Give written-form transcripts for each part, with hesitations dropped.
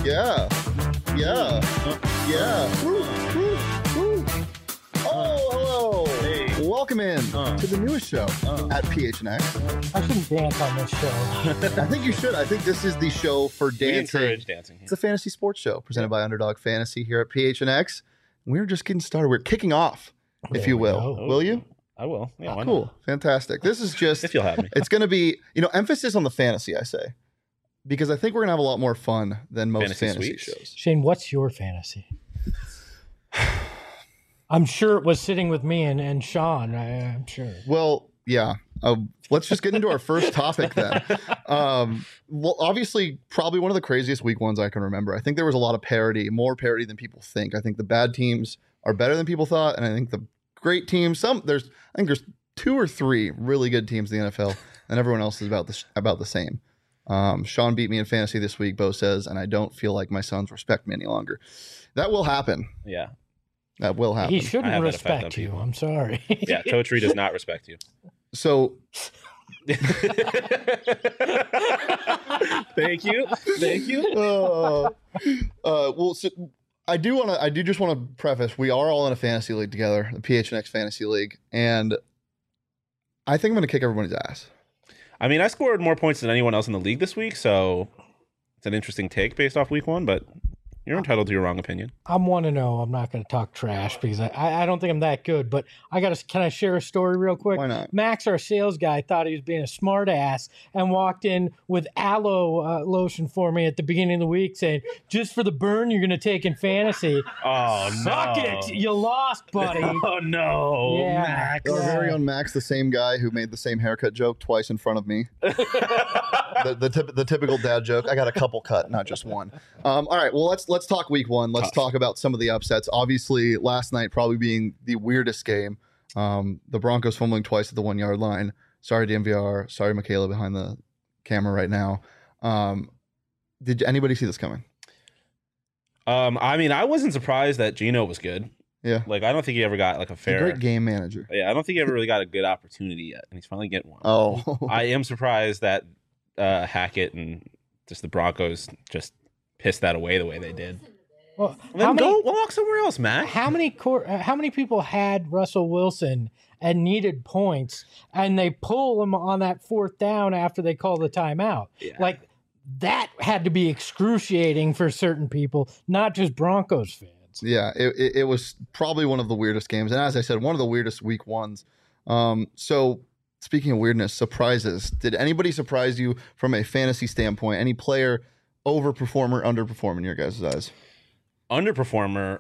Yeah. Yeah. Yeah. Woo, woo, woo. Oh, hello. Hey. Welcome in to the newest show at PHNX. I shouldn't dance on this show. I think you should. I think this is the show for We dancing. encourage dancing. It's a fantasy sports show presented by Underdog Fantasy here at PHNX. We're just getting started. We're kicking off, if There you we will. go. Will you? I will. Yeah, why Cool. Fantastic. This is just, not? If you'll have me. it's going to be, emphasis on the fantasy, I say, because I think we're going to have a lot more fun than most Fantasy fantasy suites? shows. Shane, what's your fantasy? I'm sure it was sitting with me and Sean. I'm sure. Well, yeah. Let's just get into our first topic then. Well, obviously, probably one of the craziest week ones I can remember. I think there was a lot of parity, more parity than people think. I think the bad teams are better than people thought, and I think the great teams, I think there's 2 or 3 really good teams in the NFL, and everyone else is about the same. Sean beat me in fantasy this week, Bo says, and I don't feel like my sons respect me any longer. That will happen. Yeah. That will happen. He I shouldn't have that effect on respect you. people. I'm sorry. Yeah. Totri does not respect you. So Thank you. Thank you. Well, so I do just want to preface, we are all in a fantasy league together, the PHNX Fantasy League, and I think I'm going to kick everybody's ass. I mean, I scored more points than anyone else in the league this week, so it's an interesting take based off week 1, but you're entitled to your wrong opinion. I'm 1-0. I'm not going to talk trash because I don't think I'm that good. But can I share a story real quick? Why not? Max, our sales guy, thought he was being a smart ass and walked in with aloe lotion for me at the beginning of the week saying, just for the burn you're going to take in fantasy. Oh, Suck it. You lost, buddy. Oh, no. Yeah. Max. Our very own Max, the same guy who made the same haircut joke twice in front of me. the typical dad joke. I got a couple cut, not just one. All right, well, let's talk week 1. Let's talk about some of the upsets. Obviously, last night probably being the weirdest game. The Broncos fumbling twice at the 1-yard line. Sorry, DMVR. Sorry, Michaela behind the camera right now. Did anybody see this coming? I mean, I wasn't surprised that Gino was good. Yeah. Like, I don't think he ever got like a He's a fair. great game manager. Yeah, I don't think he ever really got a good opportunity yet, and he's finally getting one. Oh. I am surprised that Hackett and just the Broncos just pissed that away the way they did. Well, Then go walk somewhere else, Matt. How many people had Russell Wilson and needed points, and they pull him on that 4th down after they call the timeout? Yeah. Like, that had to be excruciating for certain people, not just Broncos fans. Yeah, it was probably one of the weirdest games. And as I said, one of the weirdest week 1s. So speaking of weirdness, surprises. Did anybody surprise you from a fantasy standpoint? Any player overperform or underperform in your guys' eyes? Underperformer,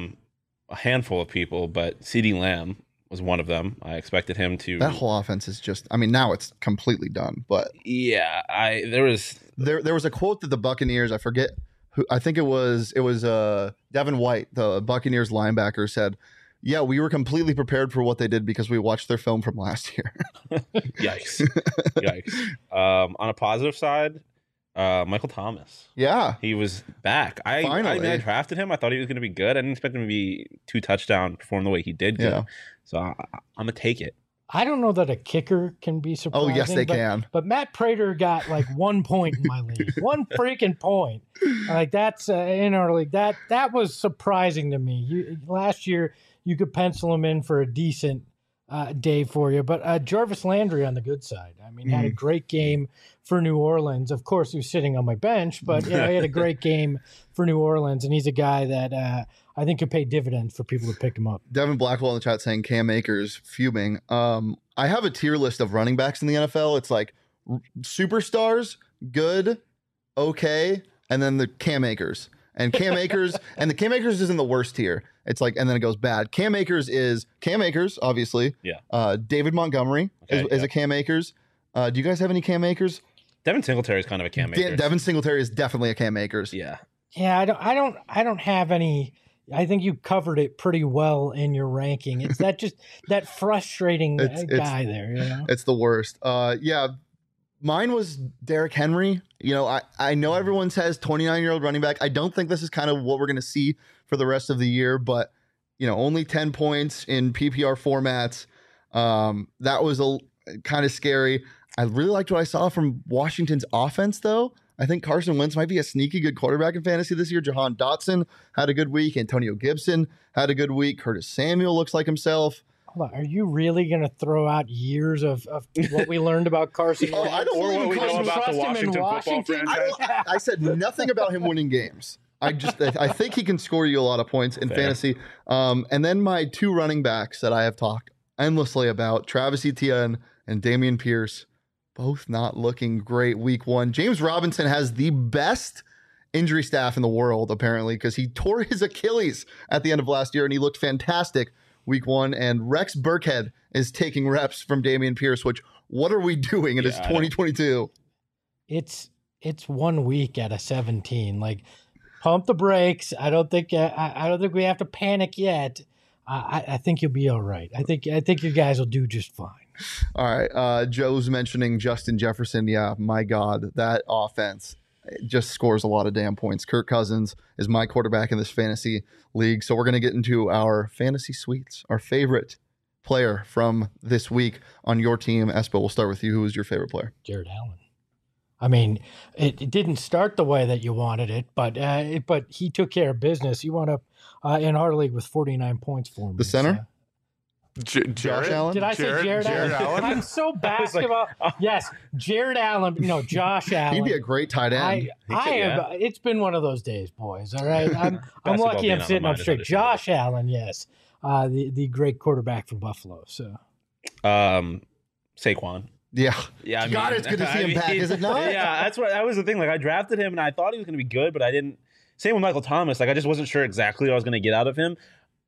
a handful of people, but CeeDee Lamb was one of them. I expected him to. That whole offense is just, I mean, now it's completely done. But Yeah, there was a quote that the Buccaneers, I forget who, I think it was Devin White, the Buccaneers linebacker, said, "Yeah, we were completely prepared for what they did because we watched their film from last year." Yikes. Yikes. On a positive side, Michael Thomas. Yeah. He was back. I drafted him. I thought he was going to be good. I didn't expect him to be 2 touchdown, perform the way he did. Yeah. Good. So I'm going to take it. I don't know that a kicker can be surprising. Oh, yes, they can. But Matt Prater got like 1 point in my league. 1 freaking point. Like, that's in our league. That was surprising to me. Last year, you could pencil him in for a decent day for you. But Jarvis Landry on the good side. I mean, had a great game for New Orleans. Of course, he was sitting on my bench, but he had a great game for New Orleans, and he's a guy that I think could pay dividends for people to pick him up. Devin Blackwell in the chat saying Cam Akers fuming. I have a tier list of running backs in the NFL. It's like superstars, good, okay, and then the Cam Akers. And Cam Akers, and the Cam Akers isn't the worst tier. It's like, and then it goes bad. Cam Akers is Cam Akers, obviously. Yeah. David Montgomery is a Cam Akers. Do you guys have any Cam Akers? Devin Singletary is kind of a Cam Akers. Devin Singletary is definitely a Cam Akers. Yeah. Yeah, I don't have any. I think you covered it pretty well in your ranking. It's that frustrating guy there. You know? It's the worst. Yeah, mine was Derrick Henry. I know everyone says 29-year-old running back. I don't think this is kind of what we're going to see for the rest of the year, but only 10 points in PPR formats. That was kind of scary. I really liked what I saw from Washington's offense, though. I think Carson Wentz might be a sneaky good quarterback in fantasy this year. Jahan Dotson had a good week. Antonio Gibson had a good week. Curtis Samuel looks like himself. Hold on, are you really going to throw out years of what we learned about Carson Oh, Wentz? I don't Or believe what in we know Carson about the Trust him in Washington football Washington? franchise. I said nothing about him winning games. I think he can score you a lot of points in Fair. fantasy. And then my two running backs that I have talked endlessly about, Travis Etienne and Damian Pierce, both not looking great week one. James Robinson has the best injury staff in the world, apparently, because he tore his Achilles at the end of last year and he looked fantastic week one. And Rex Burkhead is taking reps from Damian Pierce, which what are we doing? It is 2022. It's 1 week out of 17. Like, pump the brakes. I don't think we have to panic yet. I think you'll be all right. I think you guys will do just fine. All right. Joe's mentioning Justin Jefferson. Yeah, my God, that offense just scores a lot of damn points. Kirk Cousins is my quarterback in this fantasy league. So we're going to get into our fantasy suites, our favorite player from this week on your team. Espo, we'll start with you. Who is your favorite player? Jared Allen. I mean, it didn't start the way that you wanted it, but he took care of business. He wound up in our league with 49 points for me. The center? Josh Allen? Did I say Jared Allen? I'm so basketball. Yes, Jared Allen. No, Josh Allen. He'd be a great tight end. I have. It's been one of those days, boys. All right, I'm lucky being I'm on sitting the up mind is straight. understandable. Josh Allen, yes, the great quarterback from Buffalo. So Saquon. Yeah. Yeah, God, it's good to see him back, is it not? Yeah, that was the thing. Like, I drafted him and I thought he was going to be good, but I didn't. Same with Michael Thomas. Like, I just wasn't sure exactly what I was going to get out of him.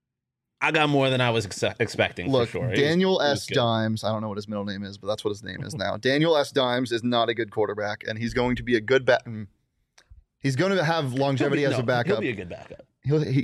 I got more than I was expecting. Look, for sure. Daniel He was S. good. Dimes, I don't know what his middle name is, but that's what his name is now. Daniel S. Dimes is not a good quarterback, and he's going to be a good He's going to have longevity as a backup. He'll be a good backup. He'll be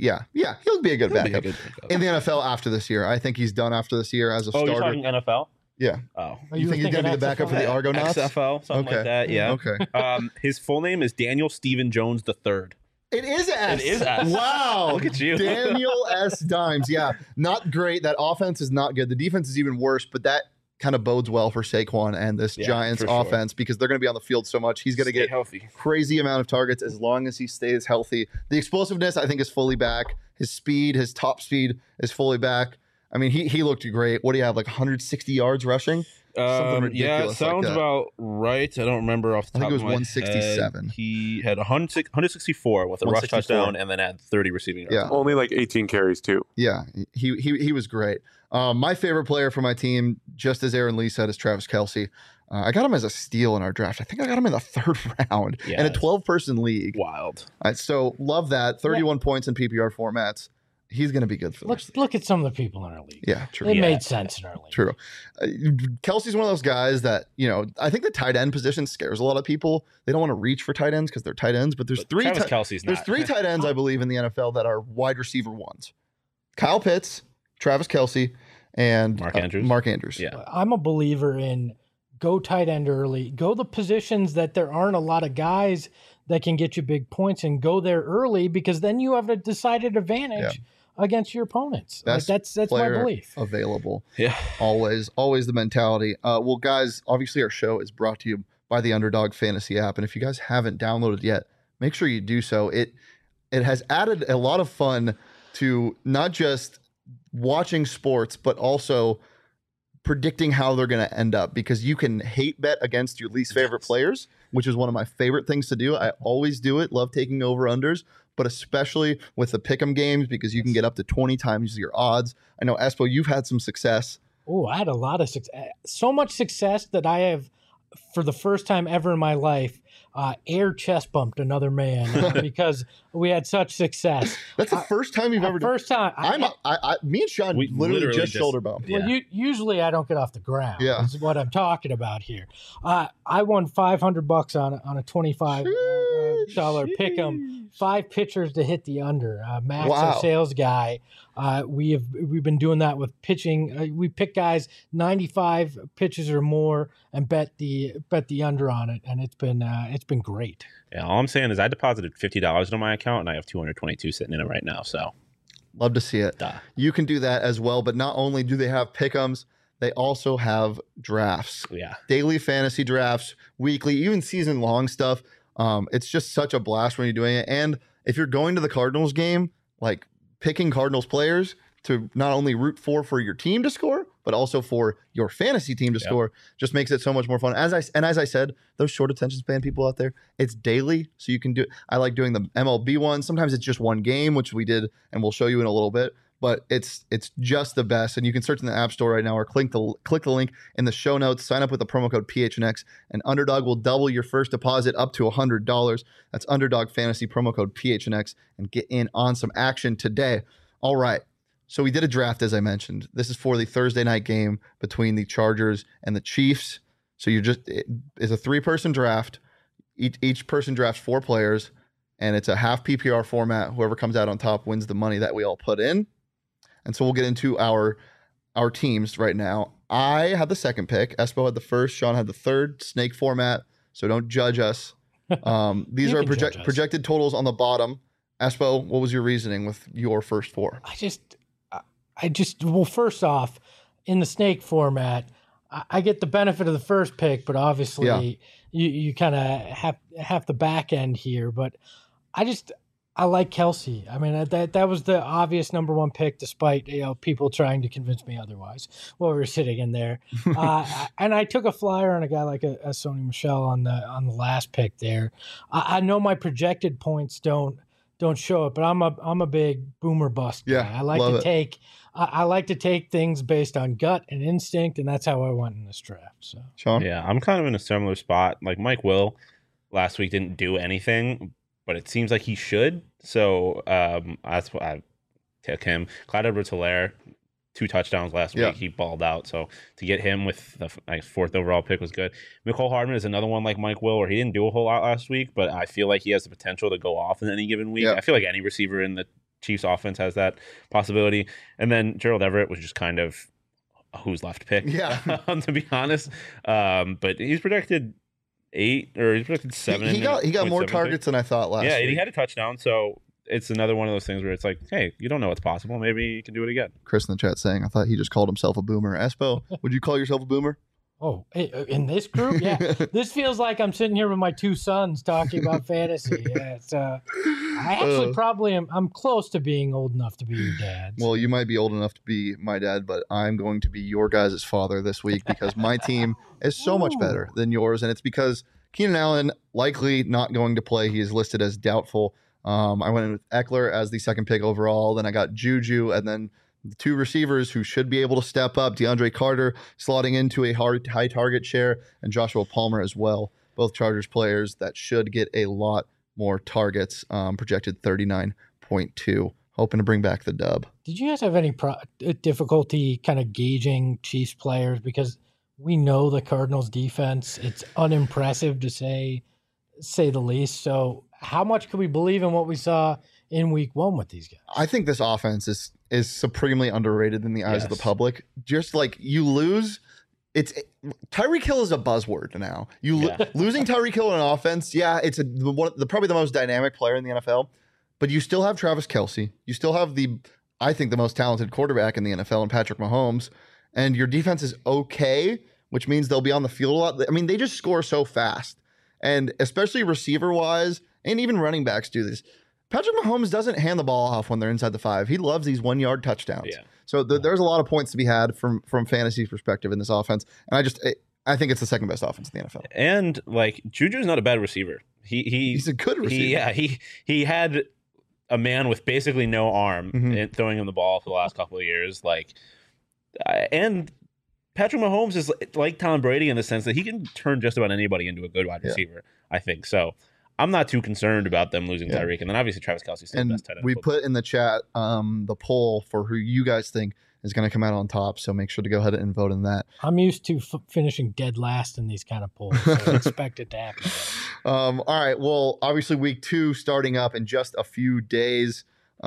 a good backup in the NFL after this year. I think he's done after this year as a Oh, starter. you're talking NFL? Yeah. Oh, You think he's going to be the backup for the Argonauts? XFL, something Okay. like that. Yeah. Okay. His full name is Daniel Stephen Jones III. It is S. It is S. Wow. Look at you. Daniel S. Dimes. Yeah. Not great. That offense is not good. The defense is even worse, but that kind of bodes well for Saquon and this Yeah, Giants for sure. offense because they're going to be on the field so much. He's going to Stay get healthy. crazy amount of targets as long as he stays healthy. The explosiveness, I think, is fully back. His speed, his top speed is fully back. I mean, he looked great. What do you have, like 160 yards rushing? Something Yeah, it ridiculous like sounds that. about right. I don't remember off the I top think it of was my 167. head. He had 164 with a rush 164. touchdown and then had 30 receiving yards. Yeah. Only like 18 carries too. Yeah, he was great. My favorite player for my team, just as Aaron Lee said, is Travis Kelce. I got him as a steal in our draft. I think I got him in the third round Yeah, in a it's 12-person league. Wild. So love that. 31 points in PPR formats. He's going to be good for this. Look at some of the people in our league. Yeah, true. It Yeah. made sense in our league. True. Kelsey's one of those guys that, I think the tight end position scares a lot of people. They don't want to reach for tight ends because they're tight ends, but there's But three Travis Kelce's there's not. three tight ends, I believe, in the NFL that are wide receiver ones. Kyle Pitts, Travis Kelce, and Mark Andrews. Mark Andrews. Yeah. I'm a believer in go tight end early, go the positions that there aren't a lot of guys that can get you big points and go there early because then you have a decided advantage against your opponents. Like, that's my player belief. Available. Yeah. Always the mentality. Well, guys, obviously our show is brought to you by the Underdog Fantasy app. And if you guys haven't downloaded yet, make sure you do so. It has added a lot of fun to not just watching sports, but also predicting how they're going to end up because you can hate bet against your least favorite players, which is one of my favorite things to do. I always do it. Love taking over unders, but especially with the pick'em games because you can get up to 20 times your odds. I know, Espo, you've had some success. Oh, I had a lot of success. So much success that I have, for the first time ever in my life, air chest bumped another man because we had such success. That's the first time you've ever done. First time. Me and Sean We literally literally just just- shoulder bumped. Yeah. Well, usually I don't get off the ground. Yeah. Is what I'm talking about here. I won $500 on a $25 pick 'em. 5 pitchers to hit the under. Max, Wow. our sales guy, we've been doing that with pitching. We pick guys 95 pitches or more and bet the under on it, and it's been great. Yeah. All I'm saying is I deposited $50 into my account and I have 222 sitting in it right now. So, Love to see it. duh. You can do that as well, but not only do they have pick'ems, they also have drafts. Yeah. Daily fantasy drafts, weekly, even season long stuff. It's just such a blast when you're doing it. And if you're going to the Cardinals game, like picking Cardinals players to not only root for your team to score, but also for your fantasy team to score, just makes it so much more fun. As I said, those short attention span people out there, it's daily, so you can do. I like doing the MLB one. Sometimes it's just one game, which we did, and we'll show you in a little bit. But it's just the best, and you can search in the App Store right now or click the link in the show notes. Sign up with the promo code PHNX, and Underdog will double your first deposit up to $100. That's Underdog Fantasy promo code PHNX, and get in on some action today. All right. So we did a draft, as I mentioned. This is for the Thursday night game between the Chargers and the Chiefs. So it's a 3-person draft. Each person drafts 4 players, and it's a half PPR format. Whoever comes out on top wins the money that we all put in. And so we'll get into our teams right now. I had the second pick. Espo had the first. Sean had the third. Snake format. So don't judge us. These are projected totals on the bottom. Espo, what was your reasoning with your first 4? Well, first off, in the snake format, I get the benefit of the first pick, but obviously you kind of have the back end here. But I like Kelsey. I mean, that was the obvious number 1 pick, despite people trying to convince me otherwise while we were sitting in there. And I took a flyer on a guy like a Sony Michel on the last pick there. I know my projected points don't show it, but I'm a big boomer bust guy. Yeah, I like to take things based on gut and instinct, and that's how I went in this draft. So, Sean? Yeah, I'm kind of in a similar spot. Like Mike Will last week didn't do anything, but it seems like he should. So that's why I took him. Clyde Edwards-Helaire, 2 touchdowns last week. He balled out. So to get him with the 4th overall pick was good. Mecole Hardman is another one like Mike Will, where he didn't do a whole lot last week, but I feel like he has the potential to go off in any given week. I feel like any receiver in the Chiefs offense has that possibility. And then Gerald Everett was just kind of a who's left pick, to be honest. But he's projected 8 or he's projected 7. He got more targets than I thought last week. Yeah, he had a touchdown. So it's another one of those things where it's like, hey, you don't know what's possible. Maybe you can do it again. Chris in the chat saying, I thought he just called himself a boomer. Espo, would you call yourself a boomer? Oh, in this group? Yeah. This feels like I'm sitting here with my 2 sons talking about fantasy. Yeah, it's, I actually probably am. I'm close to being old enough to be your dad. Well, you might be old enough to be my dad, but I'm going to be your guys' father this week because my team is so much better than yours. And it's because Keenan Allen likely not going to play. He is listed as doubtful. I went in with Eckler as the second pick overall. Then I got Juju, and then the 2 receivers who should be able to step up, DeAndre Carter slotting into a high target share, and Joshua Palmer as well. Both Chargers players that should get a lot more targets, projected 39.2. Hoping to bring back the dub. Did you guys have any difficulty kind of gauging Chiefs players? Because we know the Cardinals defense. It's unimpressive to say the least. So how much can we believe in what we saw in week 1 with these guys? I think this offense is supremely underrated in the eyes of the public. Just like you lose, Tyreek Hill is a buzzword now. Losing Tyreek Hill in an offense, it's probably the most dynamic player in the NFL, but you still have Travis Kelce. You still have I think the most talented quarterback in the NFL in Patrick Mahomes, and your defense is okay, which means they'll be on the field a lot. I mean, they just score so fast, and especially receiver-wise, and even running backs do this. Patrick Mahomes doesn't hand the ball off when they're inside the 5. He loves these 1-yard touchdowns. Yeah. So there's a lot of points to be had from fantasy perspective in this offense. And I think it's the second best offense in the NFL. And like Juju's not a bad receiver. He's a good receiver. He had a man with basically no arm and throwing him the ball for the last couple of years. And Patrick Mahomes is like Tom Brady in the sense that he can turn just about anybody into a good wide receiver. I think so. I'm not too concerned about them losing Tyreek. And then obviously Travis Kelce's still the best tight end. We put in the chat the poll for who you guys think is going to come out on top. So make sure to go ahead and vote in that. I'm used to finishing dead last in these kind of polls. So I expect it to happen. All right. Well, obviously week 2 starting up in just a few days.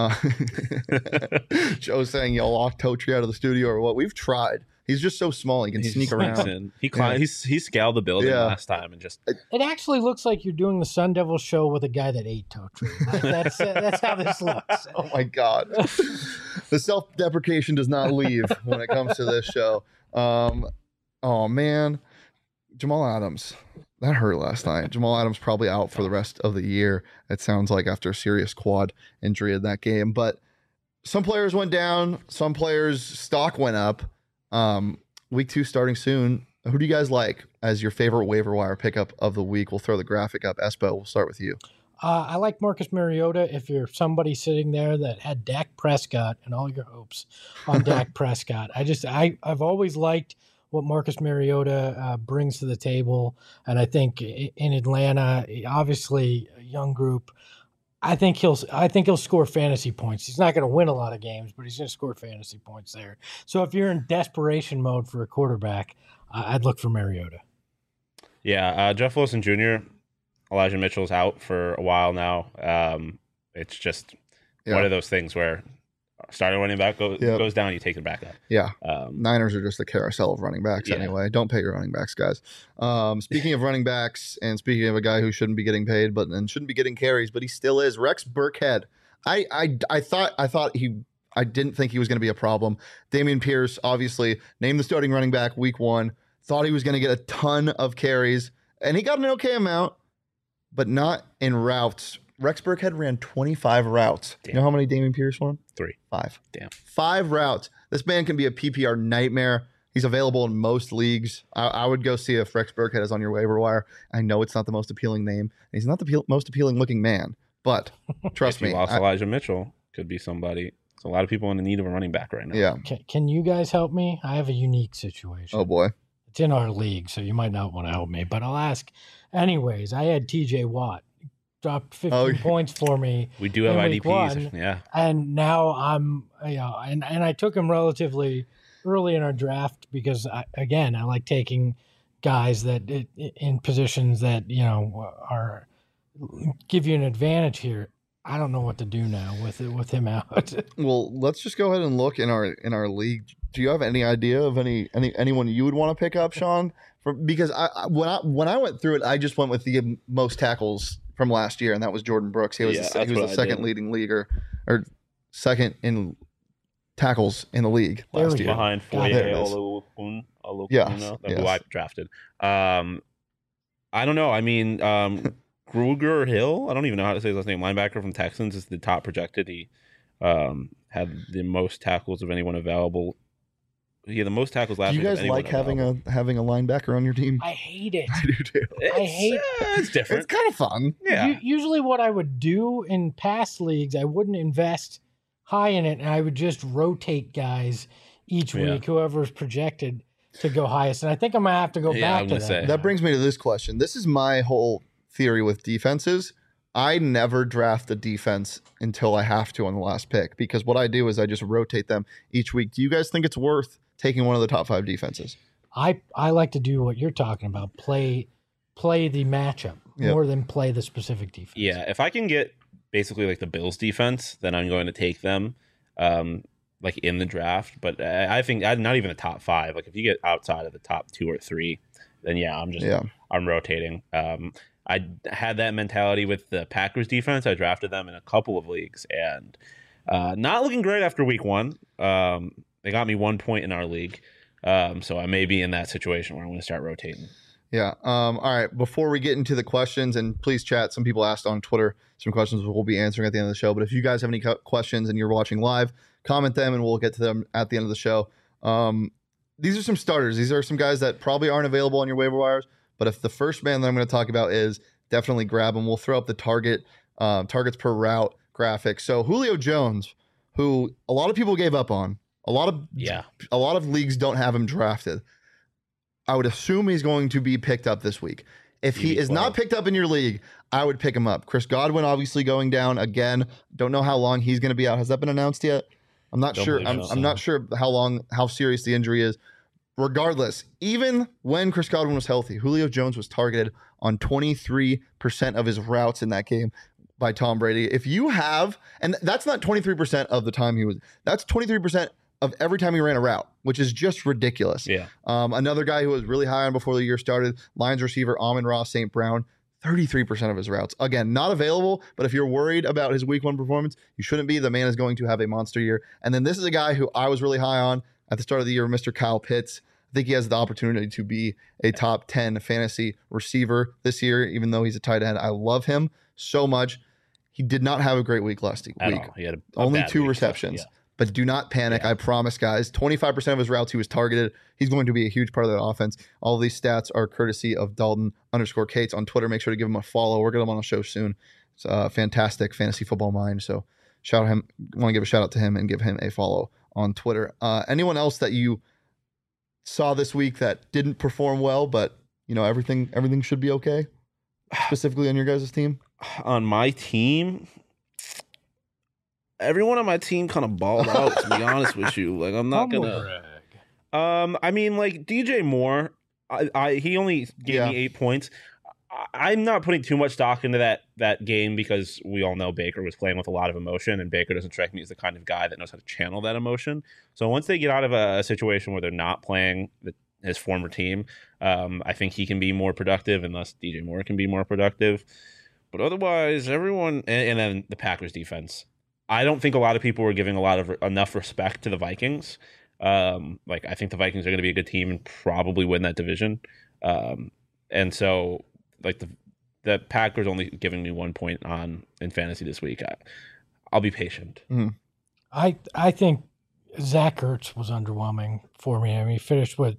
Joe's saying y'all locked Totri out of the studio or what? We've tried. He's just so small. He can sneak around. He scaled the building last time and just. It actually looks like you're doing the Sun Devil show with a guy that ate Totri. That's how this looks. Oh my God, the self-deprecation does not leave when it comes to this show. Oh man, Jamal Adams. That hurt last night. Jamal Adams probably out for the rest of the year. It sounds like after a serious quad injury in that game. But some players went down. Some players' stock went up. Week 2 starting soon. Who do you guys like as your favorite waiver wire pickup of the week? We'll throw the graphic up. Espo, we'll start with you. I like Marcus Mariota if you're somebody sitting there that had Dak Prescott and all your hopes on Dak Prescott. I've always liked what Marcus Mariota brings to the table. And I think in Atlanta, obviously a young group, I think he'll score fantasy points. He's not going to win a lot of games, but he's going to score fantasy points there. So if you're in desperation mode for a quarterback, I'd look for Mariota. Yeah, Jeff Wilson Jr., Elijah Mitchell's out for a while now. It's just one of those things where starting running back goes down, you take it back up. Yeah. Niners are just a carousel of running backs anyway. Don't pay your running backs, guys. Speaking of running backs and speaking of a guy who shouldn't be getting paid and shouldn't be getting carries, but he still is, Rex Burkhead. I didn't think he was going to be a problem. Damian Pierce, obviously, named the starting running back week 1. Thought he was going to get a ton of carries, and he got an okay amount, but not in routes. Rex Burkhead ran 25 routes. Damn. You know how many Damian Pierce won? 3. 5. Damn. 5 routes. This man can be a PPR nightmare. He's available in most leagues. I would go see if Rex Burkhead is on your waiver wire. I know it's not the most appealing name. And he's not the most appealing looking man, but trust me. Lost Elijah Mitchell. Could be somebody. There's a lot of people in the need of a running back right now. Yeah. Can you guys help me? I have a unique situation. Oh, boy. It's in our league, so you might not want to help me, but I'll ask. Anyways, I had TJ Watt. Dropped 15 points for me. We do have IDPs, yeah. And now I'm, and I took him relatively early in our draft because, I like taking guys that in positions that, are give you an advantage here. I don't know what to do now with him out. Well, let's just go ahead and look in our league. Do you have any idea of anyone you would want to pick up, Sean? Because when I went through it, I just went with the most tackles from last year, and that was Jordan Brooks. He was the second leading leaguer, or second in tackles in the league last year. Behind Foye Oluokun, who I drafted. I don't know. I mean, Grugier Hill, I don't even know how to say his last name, linebacker from Texans, is the top projected. He had the most tackles of anyone available. He had the most tackles last year. Do you guys like having a linebacker on your team? I hate it. I do too. It's different. It's kind of fun. Yeah. Usually what I would do in past leagues, I wouldn't invest high in it, and I would just rotate guys each week, whoever's projected to go highest. And I think I'm going to have to go back to that. That brings me to this question. This is my whole theory with defenses. I never draft a defense until I have to on the last pick, because what I do is I just rotate them each week. Do you guys think it's worth taking one of the top 5 defenses? I like to do what you're talking about, play the matchup more than play the specific defense. Yeah, if I can get basically like the Bills defense, then I'm going to take them like in the draft. But I think not even the top 5. Like if you get outside of the top 2 or 3, then I'm rotating. I had that mentality with the Packers defense. I drafted them in a couple of leagues, and not looking great after week 1. They got me 1 point in our league. So I may be in that situation where I'm going to start rotating. Yeah. All right. Before we get into the questions, and please chat, some people asked on Twitter some questions we'll be answering at the end of the show. But if you guys have any questions and you're watching live, comment them and we'll get to them at the end of the show. These are some starters. These are some guys that probably aren't available on your waiver wires. But if the first man that I'm going to talk about is, definitely grab him. We'll throw up the targets per route graphic. So Julio Jones, who a lot of people gave up on, a lot of leagues don't have him drafted. I would assume he's going to be picked up this week. If he is not picked up in your league, I would pick him up. Chris Godwin obviously going down again. Don't know how long he's going to be out. Has that been announced yet? I'm not sure. I'm not sure how serious the injury is. Regardless, even when Chris Godwin was healthy, Julio Jones was targeted on 23% of his routes in that game by Tom Brady. If you have, and that's not 23% of the time that's 23% of every time he ran a route, which is just ridiculous. Yeah. Another guy who was really high on before the year started, Lions receiver Amon-Ra St. Brown, 33% of his routes. Again, not available, but if you're worried about his week 1 performance, you shouldn't be. The man is going to have a monster year. And then this is a guy who I was really high on at the start of the year, Mr. Kyle Pitts. I think he has the opportunity to be a top 10 fantasy receiver this year, even though he's a tight end. I love him so much. He did not have a great week last week. He had only bad 2 week, receptions. so, yeah. But do not panic. I promise, guys. 25% of his routes he was targeted. He's going to be a huge part of that offense. All of these stats are courtesy of Dalton_Cates on Twitter. Make sure to give him a follow. We're going to him on a show soon. It's a fantastic fantasy football mind. So shout him. Want to give a shout out to him and give him a follow on Twitter. Anyone else that you saw this week that didn't perform well, but everything should be okay? Specifically on your guys' team? On my team, everyone on my team kind of balled out, to be honest with you. Like, I'm not gonna I mean, like, DJ Moore, he only gave me 8 points. I'm not putting too much stock into that game because we all know Baker was playing with a lot of emotion, and Baker doesn't strike me as the kind of guy that knows how to channel that emotion. So once they get out of a situation where they're not playing his former team, I think he can be more productive, and thus DJ Moore can be more productive. But otherwise, everyone, and then the Packers defense. I don't think a lot of people were giving enough respect to the Vikings. Like, I think the Vikings are going to be a good team and probably win that division. And so, like, the Packers only giving me 1 point in fantasy this week. I'll be patient. Mm-hmm. I think Zach Ertz was underwhelming for me. I mean, he finished with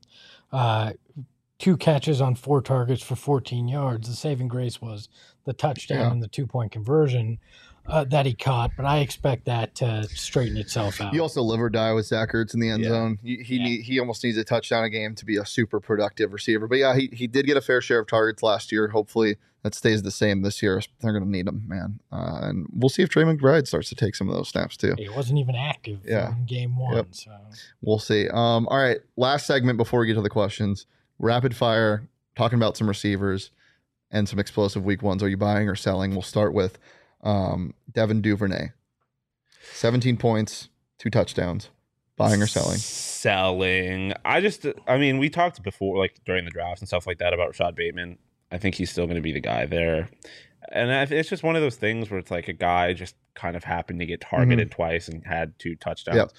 2 catches on 4 targets for 14 yards. The saving grace was the touchdown and the 2-point conversion that he caught, but I expect that to straighten itself out. You also live or die with Zach Ertz in the end zone. He almost needs a touchdown a game to be a super productive receiver. But yeah, he did get a fair share of targets last year. Hopefully that stays the same this year. They're going to need him, man. And we'll see if Trey McBride starts to take some of those snaps too. He wasn't even active in game 1. Yep. So we'll see. All right, last segment before we get to the questions. Rapid fire, talking about some receivers and some explosive week ones. Are you buying or selling? We'll start with Devin Duvernay. 17 points, 2 touchdowns. Buying or selling? Selling. I mean, we talked before, like during the drafts and stuff like that, about Rashad Bateman. I think he's still going to be the guy there. And it's just one of those things where it's like a guy just kind of happened to get targeted twice and had 2 touchdowns. Yep.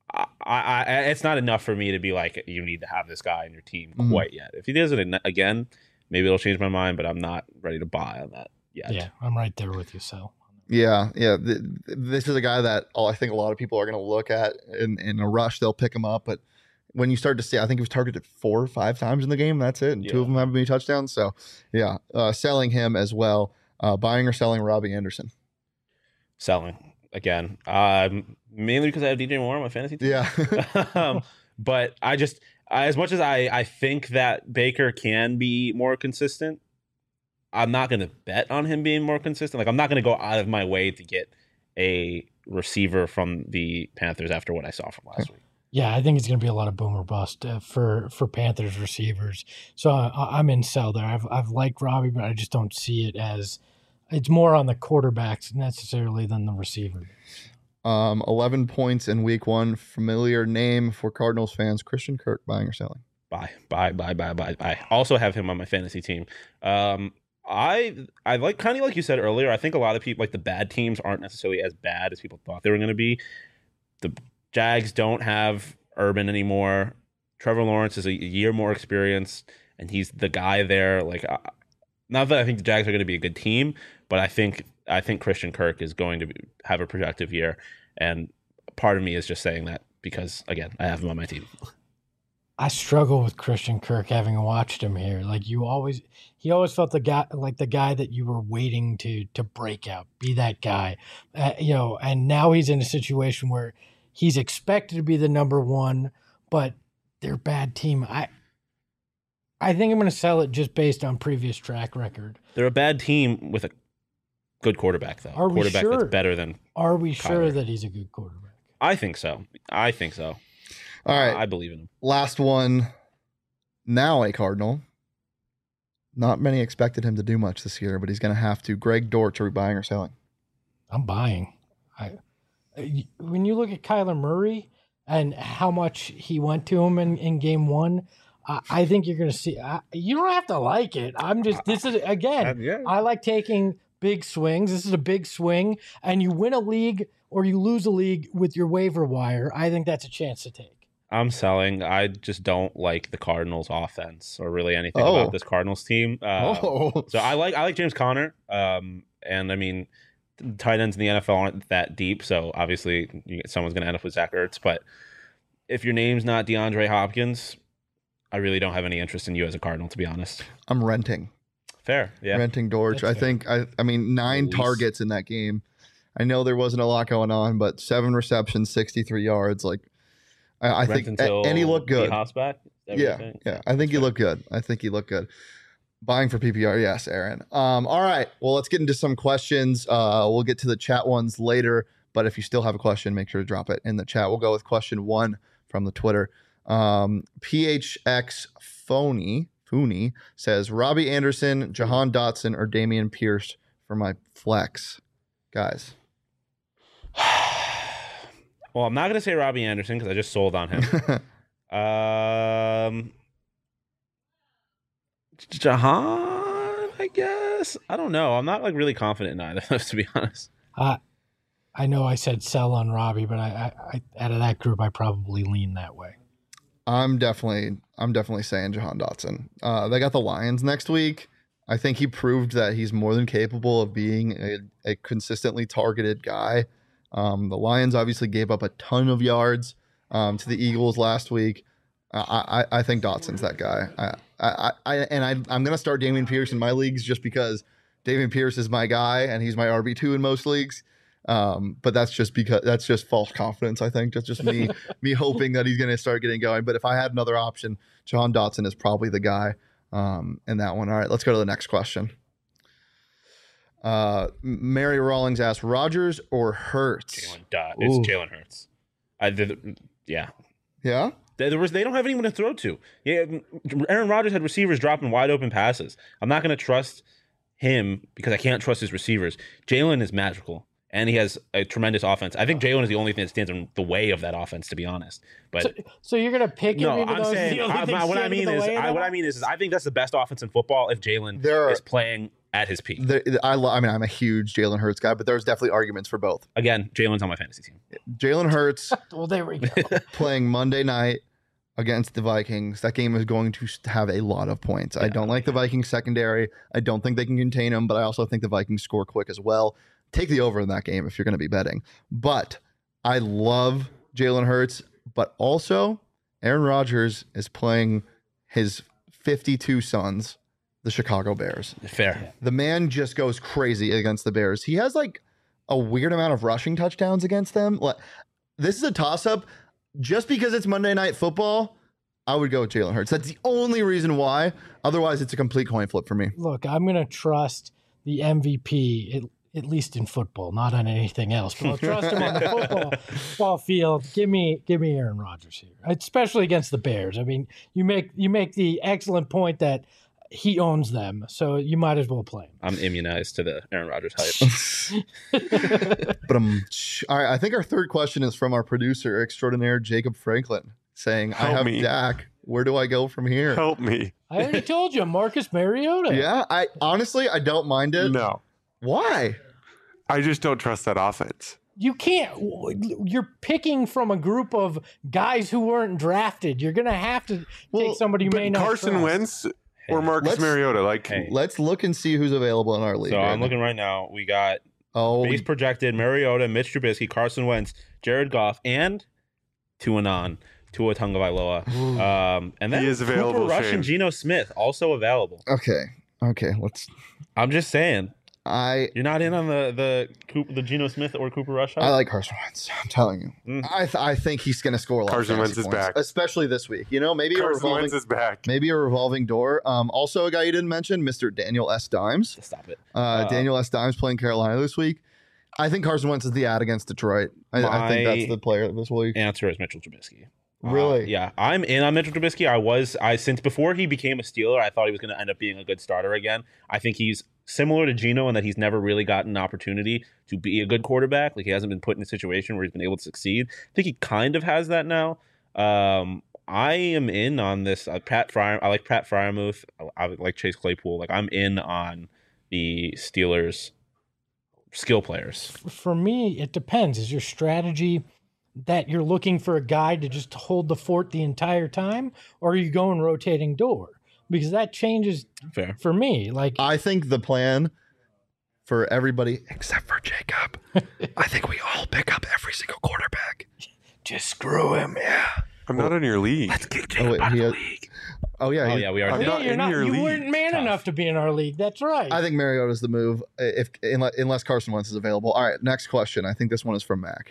It's not enough for me to be like, you need to have this guy in your team quite yet. If he does it again, maybe it'll change my mind, but I'm not ready to buy on that yet. Yeah, I'm right there with you, Sal. Yeah. This is a guy that I think a lot of people are going to look at in a rush. They'll pick him up, but when you start to see, I think he was targeted 4 or 5 times in the game. That's it. And 2 of them haven't been touchdowns. So yeah, selling him as well. Buying or selling Robbie Anderson? Selling again. Mainly because I have DJ Moore on my fantasy team. Yeah. But as much as I think that Baker can be more consistent, I'm not going to bet on him being more consistent. Like, I'm not going to go out of my way to get a receiver from the Panthers after what I saw from last week. Yeah, I think it's going to be a lot of boom or bust for Panthers receivers. So I'm in sell there. I've liked Robbie, but I just don't see it as it's more on the quarterbacks necessarily than the receiver. 11 points in week 1. Familiar name for Cardinals fans. Christian Kirk. Buying or selling? Buy. Also have him on my fantasy team. I like, kind of like you said earlier, I think a lot of people, like, the bad teams aren't necessarily as bad as people thought they were going to be. The Jags don't have Urban anymore. Trevor Lawrence is a year more experienced, and he's the guy there. Like, not that I think the Jags are going to be a good team, but I think Christian Kirk is going to have a productive year, and part of me is just saying that because, again, I have him on my team. I struggle with Christian Kirk, having watched him here. Like, he always felt the guy that you were waiting to break out, be that guy, and now he's in a situation where he's expected to be the number 1, but they're a bad team. I think I'm going to sell it just based on previous track record. They're a bad team with a good quarterback, though. Are we quarterback sure? That's better than Are we Kyler. Sure that he's a good quarterback? I think so. All right. I believe in him. Last one. Now a Cardinal. Not many expected him to do much this year, but he's going to have to. Greg Dortch, are we buying or selling? I'm buying. When you look at Kyler Murray and how much he went to him in game 1, I think you're going to see. You don't have to like it. This is, again, I like taking big swings. This is a big swing, and you win a league or you lose a league with your waiver wire. I think that's a chance to take. I'm selling. I just don't like the Cardinals offense or really anything Oh. about this Cardinals team. So I like James Conner. And I mean, tight ends in the NFL aren't that deep, so obviously someone's going to end up with Zach Ertz. But if your name's not DeAndre Hopkins, I really don't have any interest in you as a Cardinal, to be honest. I'm renting. Fair, yeah. Renting Dortch. That's I think I mean 9 Least. targets in that game. I know there wasn't a lot going on, but 7 receptions, 63 yards. Like I think, and he looked good. D-Hop's back. Yeah. I think he looked good. Buying for PPR, yes, Aaron. All right. Well, let's get into some questions. We'll get to the chat ones later, but if you still have a question, make sure to drop it in the chat. We'll go with question 1 from the Twitter. PHX Fooney says Robbie Anderson, Jahan Dotson, or Damian Pierce for my flex, guys. Well, I'm not going to say Robbie Anderson because I just sold on him. Jahan, I guess. I don't know. I'm not like really confident in either of those, to be honest. I know I said sell on Robbie, but I out of that group, I probably lean that way. I'm definitely saying Jahan Dotson. They got the Lions next week. I think he proved that he's more than capable of being a consistently targeted guy. The Lions obviously gave up a ton of yards to the Eagles last week. I think Dotson's that guy. I'm going to start Damian Pierce in my leagues just because Damian Pierce is my guy and he's my RB2 in most leagues. But that's just false confidence. I think that's just me hoping that he's going to start getting going. But if I had another option, Jahan Dotson is probably the guy in that one. All right, let's go to the next question. Mary Rawlings asked, Rodgers or Hurts? It's Jalen Hurts. Yeah. Yeah? They don't have anyone to throw to. Yeah, Aaron Rodgers had receivers dropping wide open passes. I'm not going to trust him because I can't trust his receivers. Jalen is magical, and he has a tremendous offense. I think Jalen is the only thing that stands in the way of that offense, to be honest. But so you're going to pick him? no, even I'm though saying he's the only thing what I standing mean in the is way of I mean is I think that's the best offense in football if Jalen is playing at his peak. I'm a huge Jalen Hurts guy, but there's definitely arguments for both. Again, Jalen's on my fantasy team. Jalen Hurts Well, there we go. playing Monday night against the Vikings. That game is going to have a lot of points. I don't like the Vikings secondary. I don't think they can contain them, but I also think the Vikings score quick as well. Take the over in that game if you're going to be betting. But I love Jalen Hurts, but also Aaron Rodgers is playing his 52 sons, the Chicago Bears. Fair. The man just goes crazy against the Bears. He has like a weird amount of rushing touchdowns against them. This is a toss-up. Just because it's Monday Night Football, I would go with Jalen Hurts. That's the only reason why. Otherwise, it's a complete coin flip for me. Look, I'm going to trust the MVP, at least in football, not on anything else. But I'll trust him on the football field. Give me Aaron Rodgers here, especially against the Bears. I mean, you make the excellent point that he owns them, so you might as well play him. I'm immunized to the Aaron Rodgers hype. But all right, I think our third question is from our producer extraordinaire, Jacob Franklin, saying, I have Dak. Where do I go from here? Help me. I already told you, Marcus Mariota. Yeah, I don't mind it. No. Why? I just don't trust that offense. You can't. You're picking from a group of guys who weren't drafted. You're going to have to take somebody you may not Carson trust. Wentz or Marcus Mariota. Let's look and see who's available in our league. So I'm looking right now. We got base projected Mariota, Mitch Trubisky, Carson Wentz, Jared Goff, and Tua Tagovailoa. And then he is available. Cooper Rush and Geno Smith also available. Okay. I'm just saying. You're not in on the Geno Smith or Cooper Rush hype? I like Carson Wentz. I'm telling you. I think he's going to score a lot. Carson of Wentz is points, back, especially this week. Maybe Carson Wentz is back. Maybe a revolving door. Also, a guy you didn't mention, Mr. Daniel S. Dimes. Stop it. Daniel S. Dimes playing Carolina this week. I think Carson Wentz is the ad against Detroit. I think that's the player this week. Answer is Mitchell Trubisky. Really? Yeah, I'm in on Mitchell Trubisky. Since before he became a Steeler, I thought he was going to end up being a good starter again. I think he's similar to Geno in that he's never really gotten an opportunity to be a good quarterback. Like, he hasn't been put in a situation where he's been able to succeed. I think he kind of has that now. I am in on this. I like Pat Freiermuth. I like Chase Claypool. Like, I'm in on the Steelers skill players. For me, it depends. Is your strategy that you're looking for a guy to just hold the fort the entire time, or are you going rotating door? Because that changes Fair. for me. Like, I think the plan for everybody except for Jacob, I think we all pick up every single quarterback. just screw him. Yeah. I'm not in your league. Let's kick Oh, Jacob wait, out of he the had- league. Oh yeah. Oh yeah, we are. I'm Yeah, not you're in not. your You league. weren't man Tough. enough to be in our league. That's right. I think Mariota's the move if unless Carson Wentz is available. All right, next question. I think this one is from Mac.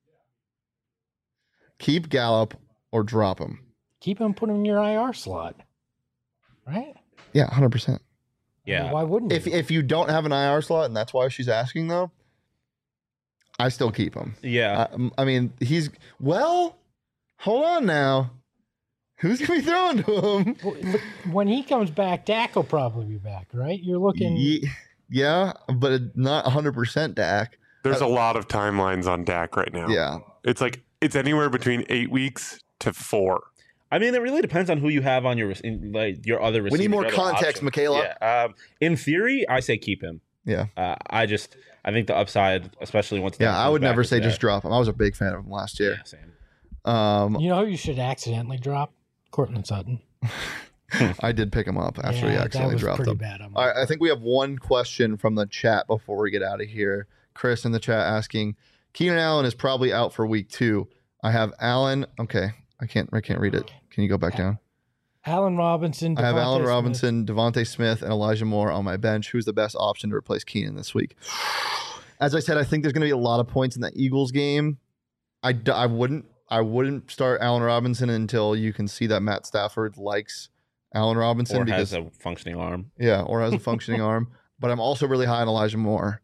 Keep Gallup or drop him? Keep him, put him in your IR slot. Right? Yeah, 100%. Yeah. Why wouldn't you? If you don't have an IR slot and that's why she's asking though, I still keep him. Yeah. I mean, hold on now. Who's gonna be throwing to him? Well, look, when he comes back, Dak will probably be back, right? You're looking. Yeah, but not 100% Dak. There's a lot of timelines on Dak right now. Yeah. It's like it's anywhere between 8 weeks to 4. I mean, it really depends on who you have on your your other receivers. We need more your other context, options. Michaela. Yeah. In theory, I say keep him. Yeah. I think the upside, especially once. Yeah, Dak I comes would back, never is say there. just drop him. I was a big fan of him last year. Yeah, same. You know who you should accidentally drop? Cortland Sutton. I did pick him up after he Yeah, accidentally that was dropped pretty him. bad. All right, I think we have one question from the chat before we get out of here. Chris in the chat asking, Keenan Allen is probably out for week 2. I have Allen. Okay, I can't read it. Can you go back down? Allen Robinson. I have Devontae Allen Smith. Robinson, Devontae Smith, and Elijah Moore on my bench. Who's the best option to replace Keenan this week? As I said, I think there's going to be a lot of points in that Eagles game. I wouldn't start Allen Robinson until you can see that Matt Stafford likes Allen Robinson Or because has a functioning arm. yeah, or has a functioning arm. But I'm also really high on Elijah Moore.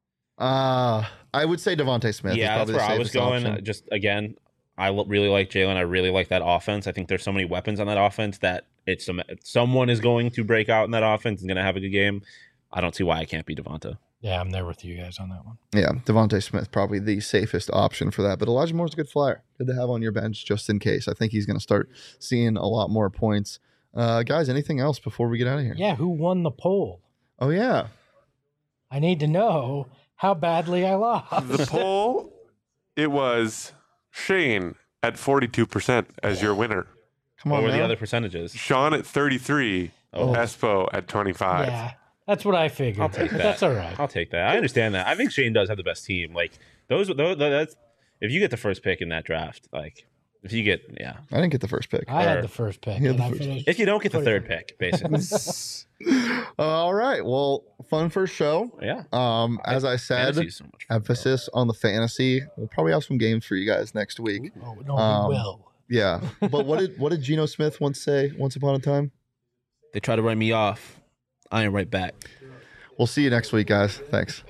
I would say Devontae Smith. is Yeah, that's probably where the I was safest going. option. Just again, I really like Jalen. I really like that offense. I think there's so many weapons on that offense that someone is going to break out in that offense and going to have a good game. I don't see why I can't be Devonta. Yeah, I'm there with you guys on that one. Yeah, Devontae Smith probably the safest option for that. But Elijah Moore's a good flyer. Good to have on your bench just in case. I think he's going to start seeing a lot more points. Guys, anything else before we get out of here? Yeah, who won the poll? Oh, yeah. I need to know how badly I lost. The poll, it was Shane at 42% as your winner. Come What on, were the now. other percentages? Sean at 33, Oh. Espo at 25. Yeah, that's what I figured. I'll take But that. That's all right. I'll take that. I understand that. I think Shane does have the best team. Like those that's if you get the first pick in that draft, like if you get I didn't get the first pick. I had the first pick. You had And the I first finished. if you don't get the third pick, basically. All right. Well, fun first show. Yeah. As I said, Fantasy's so much fun. emphasis on the fantasy. We'll probably have some games for you guys next week. Oh, no, Um, we will. Yeah. But what did Geno Smith once say once upon a time? They try to write me off. I ain't right back. We'll see you next week, guys. Thanks.